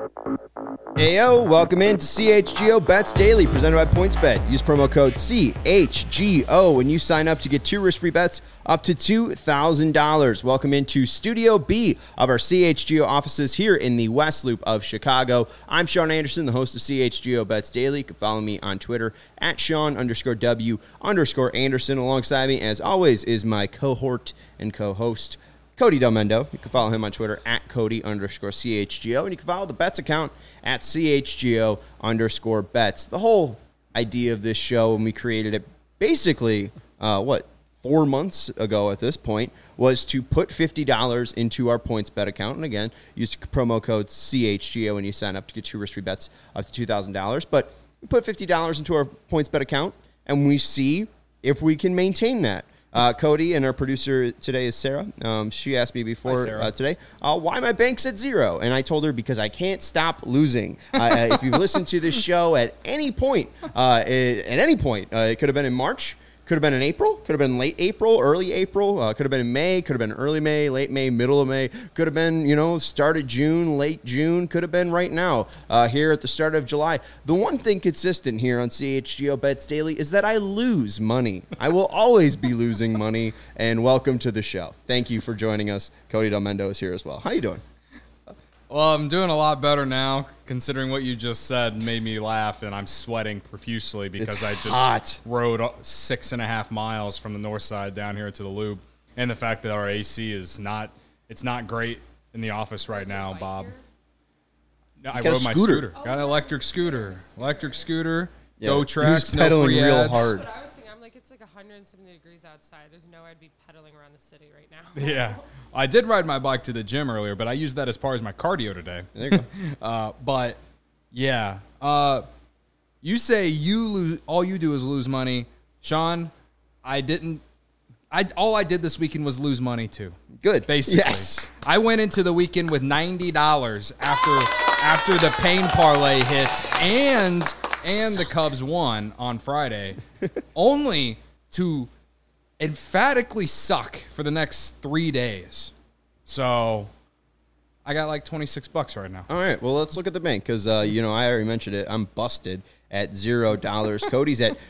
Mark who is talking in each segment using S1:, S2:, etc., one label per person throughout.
S1: Heyo, welcome in to CHGO Bets Daily, presented by PointsBet. Use promo code CHGO when you sign up to get 2 risk-free bets up to $2,000. Welcome into Studio B of our CHGO offices here in the West Loop of Chicago. I'm Sean Anderson, the host of CHGO Bets Daily. You can follow me on Twitter at Sean_W_Anderson. Alongside me, as always, is my cohort and co-host, Cody Del Mendo. You can follow him on Twitter at Cody_CHGO. And you can follow the Bets account at CHGO_Bets. The whole idea of this show, when we created it basically, 4 months ago at this point, was to put $50 into our PointsBet account. And again, use promo code CHGO when you sign up to get 2 risk-free bets up to $2,000. But we put $50 into our PointsBet account, and we see if we can maintain that. Cody and our producer today is Sarah. She asked me before today why my bank's at 0. And I told her because I can't stop losing. If you've listened to this show at any point, it could have been in March, could have been in April, could have been late April, early April, could have been in May, could have been early May, late May, middle of May, could have been, start of June, late June, could have been right now, here at the start of July. The one thing consistent here on CHGO Bets Daily is that I lose money. I will always be losing money, and welcome to the show. Thank you for joining us. Cody Del Mendo is here as well. How you doing?
S2: Well, I'm doing a lot better now, considering what you just said made me laugh, and I'm sweating profusely because I just rode 6.5 miles from the north side down here to the Loop, and the fact that our AC is not great in the office right now, Bob. I rode my scooter. Got an electric scooter.
S1: Yeah.
S2: Go Tracks.
S1: Who's pedaling
S2: no free
S1: real
S2: ads.
S1: hard?
S3: That's what I was thinking. I'm like, it's like 170 degrees outside. There's no way I'd be pedaling around the city right now.
S2: Yeah. I did ride my bike to the gym earlier, but I used that as far as my cardio today.
S1: There you go.
S2: But, yeah. You say you lose. All you do is lose money. Sean, I didn't. All I did this weekend was lose money, too.
S1: Good.
S2: Basically.
S1: Yes.
S2: I went into the weekend with $90 after the pain parlay hit and the Cubs won on Friday, only to emphatically suck for the next 3 days. So I got like $26 right now.
S1: All right, well, let's look at the bank because, I already mentioned it. I'm busted at $0. Cody's at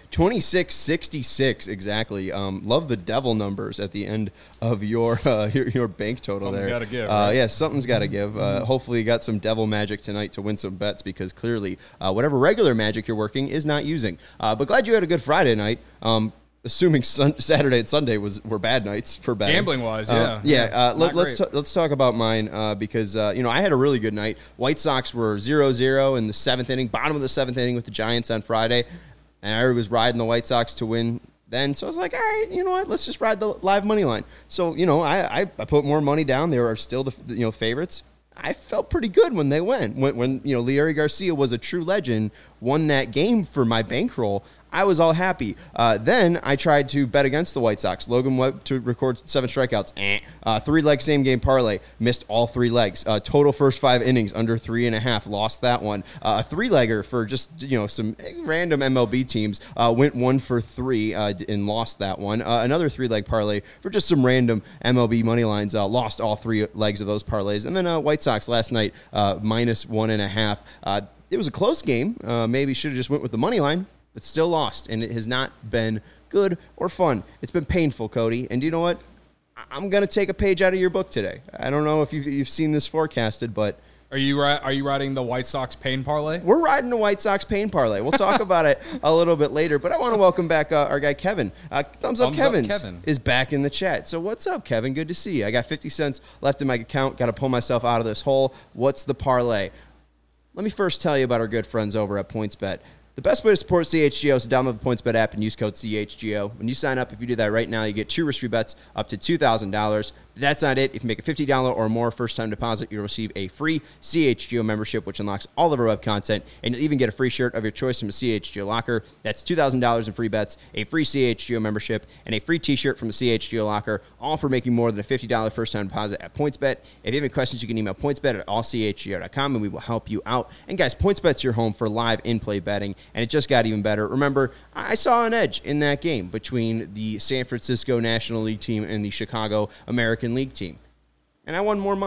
S1: $26.66 exactly. Love the devil numbers at the end of your bank total.
S2: Something's
S1: there.
S2: Got to give. Right?
S1: Yeah, something's got to give. Hopefully you got some devil magic tonight to win some bets because clearly whatever regular magic you're working is not using. But glad you had a good Friday night. Assuming Saturday and Sunday were bad nights for betting.
S2: Gambling-wise, yeah.
S1: Let's talk about mine because, I had a really good night. White Sox were 0-0 in the 7th inning, bottom of the 7th inning with the Giants on Friday. And I was riding the White Sox to win then. So I was like, all right, you know what? Let's just ride the live money line. So, I put more money down. They were still the favorites. I felt pretty good when they went. When Leury Garcia was a true legend, won that game for my bankroll, I was all happy. Then I tried to bet against the White Sox. Logan Webb to record 7 strikeouts. 3-leg same-game parlay. Missed all 3 legs. Total first 5 innings under 3.5. Lost that one. A 3-legger for just, some random MLB teams. Went 1 for 3 and lost that one. Another 3-leg parlay for just some random MLB money lines. Lost all 3 legs of those parlays. And then White Sox last night, minus 1.5. It was a close game. Maybe should have just went with the money line. But still lost, and it has not been good or fun. It's been painful, Cody. And you know what? I'm going to take a page out of your book today. I don't know if you've seen this forecasted, but...
S2: Are you riding the White Sox pain parlay?
S1: We're riding the White Sox pain parlay. We'll talk about it a little bit later, but I want to welcome back our guy, Kevin. Thumbs up, Kevin is back in the chat. So what's up, Kevin? Good to see you. I got 50 cents left in my account. Got to pull myself out of this hole. What's the parlay? Let me first tell you about our good friends over at PointsBet. The best way to support CHGO is to download the PointsBet app and use code CHGO. When you sign up, if you do that right now, you get 2 risk-free bets up to $2,000. That's not it. If you make a $50 or more first-time deposit, you'll receive a free CHGO membership, which unlocks all of our web content, and you'll even get a free shirt of your choice from a CHGO locker. That's $2,000 in free bets, a free CHGO membership, and a free T-shirt from the CHGO locker, all for making more than a $50 first-time deposit at PointsBet. If you have any questions, you can email pointsbet@allchgo.com, and we will help you out. And guys, PointsBet's your home for live in-play betting, and it just got even better. Remember, I saw an edge in that game between the San Francisco National League team and the Chicago American League team. And I won more money.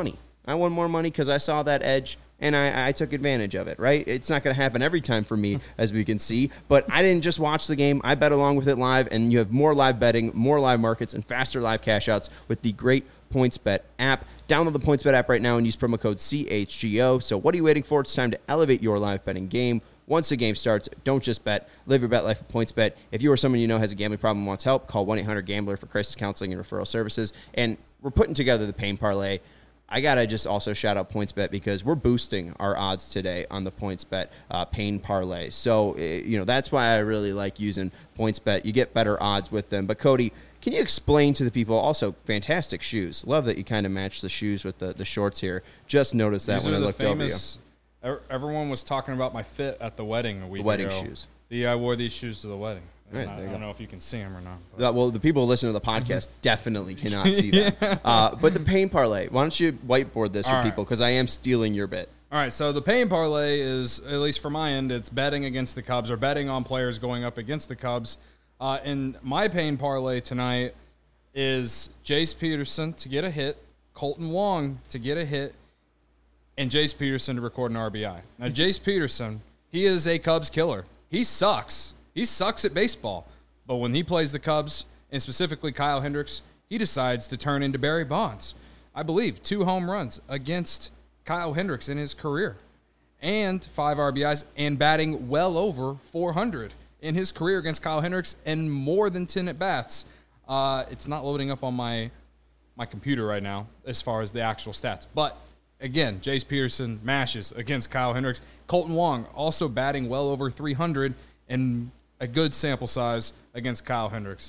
S1: I won more money because I saw that edge and I took advantage of it, right? It's not going to happen every time for me, as we can see, but I didn't just watch the game. I bet along with it live, and you have more live betting, more live markets, and faster live cash outs with the great PointsBet app. Download the PointsBet app right now and use promo code CHGO. So what are you waiting for? It's time to elevate your live betting game. Once the game starts, don't just bet. Live your bet life with PointsBet. If you or someone you know has a gambling problem and wants help, call 1-800-GAMBLER for crisis counseling and referral services. And we're putting together the Pain Parlay. I got to just also shout out PointsBet because we're boosting our odds today on the PointsBet Pain Parlay. So, that's why I really like using PointsBet. You get better odds with them. But, Cody, can you explain to the people, also, fantastic shoes. Love that you kind of match the shoes with the shorts here. Just noticed that when I looked over you.
S2: Everyone was talking about my fit at the wedding a week ago.
S1: Wedding shoes.
S2: I wore these shoes to the wedding.
S1: Right,
S2: I don't know if you can see them or not.
S1: Well, the people who listen to the podcast definitely cannot see them. But the Pain Parlay, why don't you whiteboard this for people? Because I am stealing your bit.
S2: All right, so the Pain Parlay is, at least for my end, it's betting against the Cubs or betting on players going up against the Cubs. And my Pain Parlay tonight is Jace Peterson to get a hit, Colton Wong to get a hit, and Jace Peterson to record an RBI. Now, Jace Peterson, he is a Cubs killer. He sucks. He sucks at baseball. But when he plays the Cubs, and specifically Kyle Hendricks, he decides to turn into Barry Bonds. I believe 2 home runs against Kyle Hendricks in his career, and 5 RBIs, and batting well over 400 in his career against Kyle Hendricks, and more than 10 at-bats. It's not loading up on my computer right now as far as the actual stats. But, again, Jace Peterson mashes against Kyle Hendricks. Colton Wong also batting well over 300 and a good sample size against Kyle Hendricks.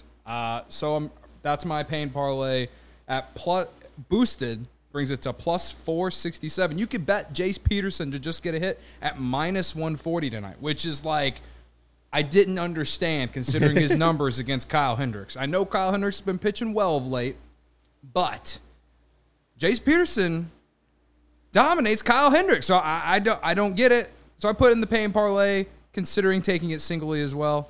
S2: That's my Pain Parlay at boosted, brings it to plus 467. You could bet Jace Peterson to just get a hit at minus 140 tonight, which is like, I didn't understand considering his numbers against Kyle Hendricks. I know Kyle Hendricks has been pitching well of late, but Jace Peterson dominates Kyle Hendricks. So I don't get it. So I put in the Pain Parlay, considering taking it singly as well.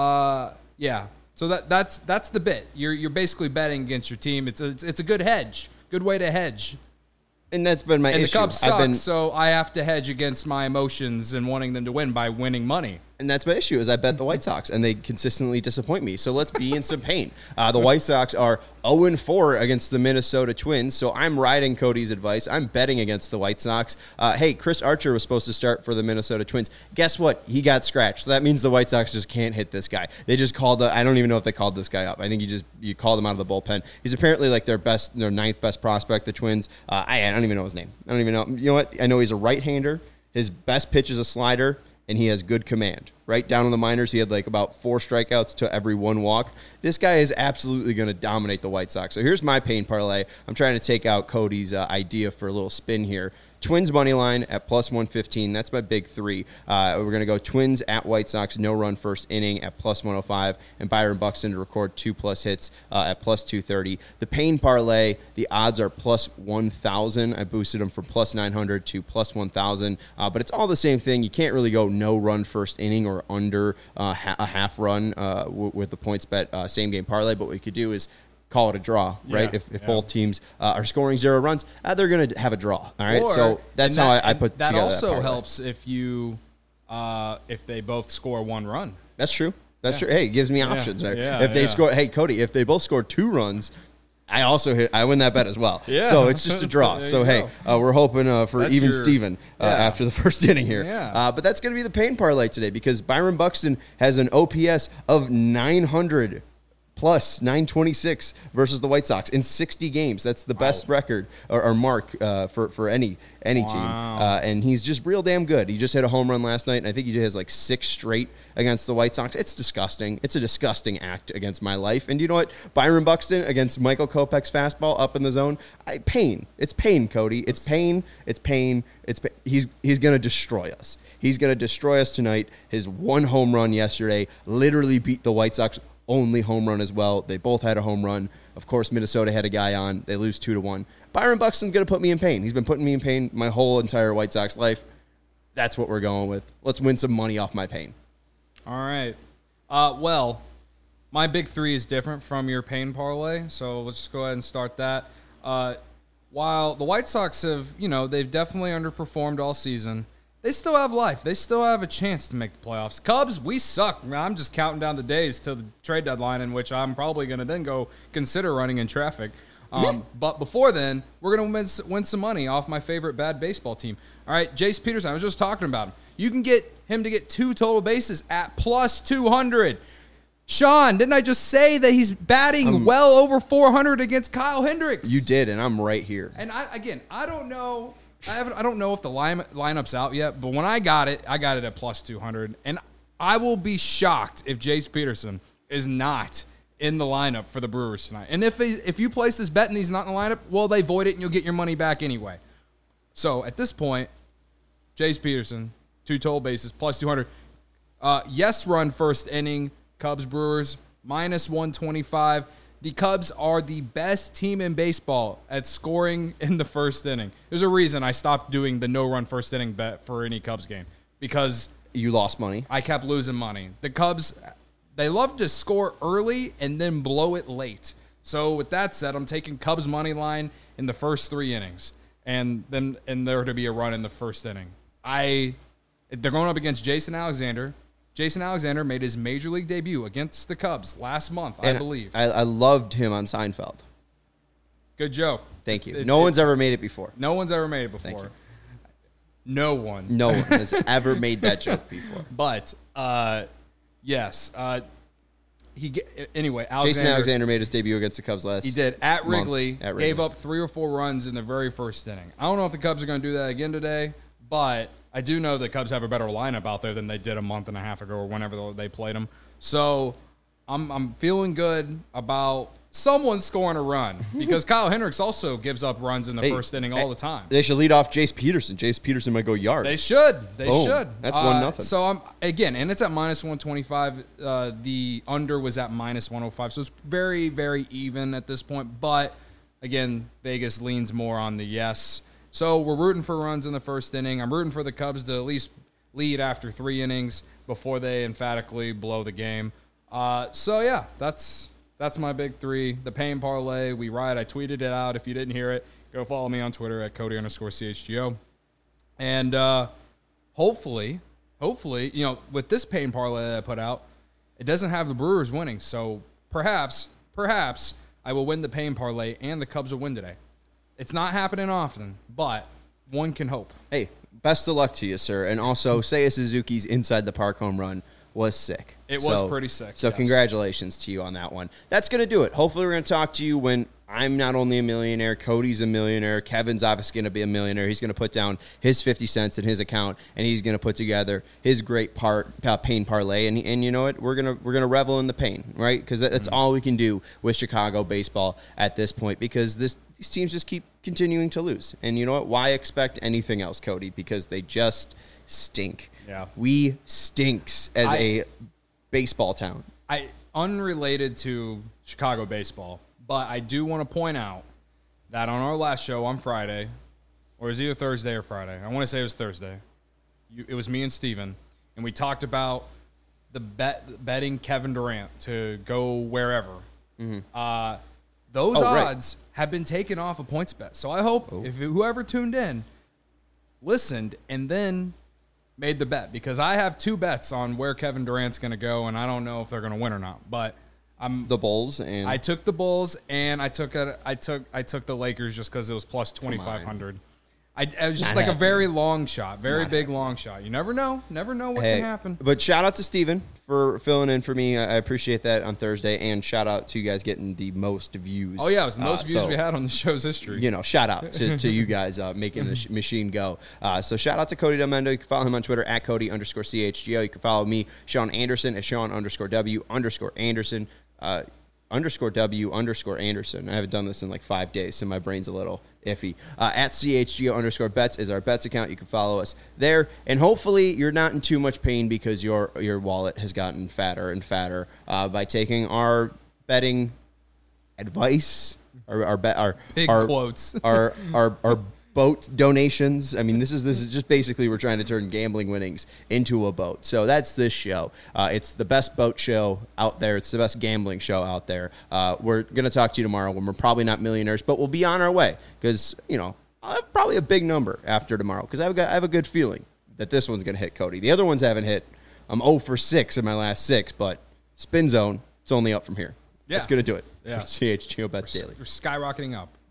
S2: Yeah. So that's the bit. You're basically betting against your team. It's a good hedge. Good way to hedge.
S1: And that's been my issue.
S2: And the Cubs suck, so I have to hedge against my emotions and wanting them to win by winning money.
S1: And that's my issue, is I bet the White Sox, and they consistently disappoint me. So let's be in some pain. The White Sox are 0-4 against the Minnesota Twins, so I'm riding Cody's advice. I'm betting against the White Sox. Hey, Chris Archer was supposed to start for the Minnesota Twins. Guess what? He got scratched. So that means the White Sox just can't hit this guy. They just called I don't even know if they called this guy up. I think you called him out of the bullpen. He's apparently like their 9th best prospect, the Twins. I don't even know his name. I don't even know. You know what? I know he's a right-hander. His best pitch is a slider, and he has good command. Right down in the minors, he had like about 4 strikeouts to every 1 walk. This guy is absolutely going to dominate the White Sox. So here's my Pain Parlay. I'm trying to take out Cody's idea for a little spin here. Twins money line at plus 115. That's my big 3. We're going to go Twins at White Sox, no run first inning at plus 105, and Byron Buxton to record 2+ hits at plus 230. The Pain Parlay, the odds are plus 1,000. I boosted them from plus 900 to plus 1,000, but it's all the same thing. You can't really go no run first inning or under a half run with the PointsBet same game parlay, but what we could do is call it a draw, right?
S2: Yeah,
S1: if both teams are scoring 0 runs, they're going to have a draw. All right, so that's how I put
S2: that
S1: together
S2: also
S1: that
S2: helps if you if they both score 1 run.
S1: That's true. That's true. Hey, it gives me options. Right?
S2: Yeah,
S1: if they score, hey Cody, if they both score 2 runs, I win that bet as well.
S2: Yeah.
S1: So it's just a draw. So hey, we're hoping for
S2: that's
S1: even Steven after the first inning here.
S2: Yeah.
S1: But that's going to be the Pain Parlay today because Byron Buxton has an OPS of 900. Plus 926 versus the White Sox in 60 games. That's the best record or mark for any team. And he's just real damn good. He just hit a home run last night, and I think he has like 6 straight against the White Sox. It's disgusting. It's a disgusting act against my life. And you know what? Byron Buxton against Michael Kopech's fastball up in the zone. Pain. It's pain, Cody. It's pain. It's pain. It's pain. He's going to destroy us. He's going to destroy us tonight. His 1 home run yesterday literally beat the White Sox only home run as well. They both had a home run. Of course, Minnesota had a guy on. They lose 2-1. Byron Buxton's going to put me in pain. He's been putting me in pain my whole entire White Sox life. That's what we're going with. Let's win some money off my pain.
S2: All right. Well, my big 3 is different from your Pain Parlay, so let's just go ahead and start that. while the White Sox have, they've definitely underperformed all season, they still have life. They still have a chance to make the playoffs. Cubs, we suck. I'm just counting down the days till the trade deadline, in which I'm probably going to then go consider running in traffic. But before then, we're going to win some money off my favorite bad baseball team. All right, Jace Peterson, I was just talking about him. You can get him to get 2 total bases at plus 200. Sean, didn't I just say that he's batting well over 400 against Kyle Hendricks?
S1: You did, and I'm right here.
S2: And I don't know. I don't know if the lineup's out yet, but when I got it at plus 200. And I will be shocked if Jace Peterson is not in the lineup for the Brewers tonight. And if you place this bet and he's not in the lineup, well, they void it and you'll get your money back anyway. So at this point, Jace Peterson, 2 total bases, plus 200. Yes run first inning, Cubs Brewers, minus 125. The Cubs are the best team in baseball at scoring in the first inning. There's a reason I stopped doing the no-run first inning bet for any Cubs game, because
S1: you lost money.
S2: I kept losing money. The Cubs, they love to score early and then blow it late. So with that said, I'm taking Cubs money line in the first 3 innings, and there to be a run in the first inning. They're going up against Jason Alexander. Jason Alexander made his major league debut against the Cubs last month, I believe.
S1: I loved him on Seinfeld.
S2: Good joke.
S1: Thank you. No one's ever made it before.
S2: No one's ever made it before.
S1: Thank you.
S2: No one.
S1: No one has ever made that joke before.
S2: But, yes. Anyway,
S1: Jason Alexander made his debut against the Cubs last.
S2: He did at
S1: month,
S2: Wrigley. Gave up 3 or 4 runs in the very first inning. I don't know if the Cubs are going to do that again today, but I do know the Cubs have a better lineup out there than they did a month and a half ago or whenever they played them. So I'm feeling good about someone scoring a run, because Kyle Hendricks also gives up runs in the first inning all the time.
S1: They should lead off Jace Peterson. Jace Peterson might go yard.
S2: They should. They should.
S1: That's 1-0.
S2: So and it's at minus 125. The under was at minus 105. So it's very, very even at this point. But again, Vegas leans more on the yes. So we're rooting for runs in the first inning. I'm rooting for the Cubs to at least lead after 3 innings before they emphatically blow the game. So yeah, that's my big 3. The Pain Parlay, we ride. I tweeted it out. If you didn't hear it, go follow me on Twitter at Cody_CHGO. And hopefully, with this Pain Parlay that I put out, it doesn't have the Brewers winning. So perhaps I will win the Pain Parlay and the Cubs will win today. It's not happening often, but one can hope.
S1: Hey, best of luck to you, sir. And also, Seiya Suzuki's inside the park home run was sick.
S2: It was pretty sick.
S1: So congratulations to you on that one. That's going to do it. Hopefully we're going to talk to you when I'm not only a millionaire, Cody's a millionaire, Kevin's obviously going to be a millionaire. He's going to put down his 50 cents in his account, and he's going to put together his great pain parlay. And you know what? We're gonna revel in the pain, right? Because that's all we can do with Chicago baseball at this point, because these teams just keep continuing to lose. And you know what? Why expect anything else, Cody? Because they just stink.
S2: Yeah.
S1: We stinks as a baseball town.
S2: Unrelated to Chicago baseball, but I do want to point out that on our last show on Friday, or it was either Thursday or Friday, I want to say it was Thursday, it was me and Steven, and we talked about the betting Kevin Durant to go wherever. Mm-hmm. Those odds have been taken off of PointsBet. So I hope if whoever tuned in listened and then made the bet, because I have 2 bets on where Kevin Durant's going to go, and I don't know if they're going to win or not. But
S1: the Bulls, and
S2: I took the Bulls, and I took the Lakers just because it was plus 2,500. It was just like a very long shot, very big long shot. You never know what can happen.
S1: But shout out to Steven for filling in for me. I appreciate that on Thursday, and shout out to you guys getting the most views.
S2: Oh yeah, it was the most views we had on the show's history.
S1: You know, shout out to you guys making the machine go. So shout out to Cody Del Mendo. You can follow him on Twitter at Cody_CHGO. You can follow me, Sean Anderson, at Sean_W_Anderson. _W_Anderson. I haven't done this in like 5 days, so my brain's a little iffy. At CHGO_bets is our bets account. You can follow us there. And hopefully you're not in too much pain because your wallet has gotten fatter and fatter by taking our betting advice, our
S2: quotes,
S1: our boat donations. I mean, this is just basically we're trying to turn gambling winnings into a boat. So that's this show. It's the best boat show out there. It's the best gambling show out there. We're going to talk to you tomorrow when we're probably not millionaires, but we'll be on our way because, I'll have probably a big number after tomorrow because I have a good feeling that this one's going to hit Cody. The other ones haven't hit. I'm 0 for 6 in my last 6, but Spin Zone, it's only up from here. Yeah. That's going to do it.
S2: Yeah.
S1: CHGO Bets Daily.
S2: We're skyrocketing up.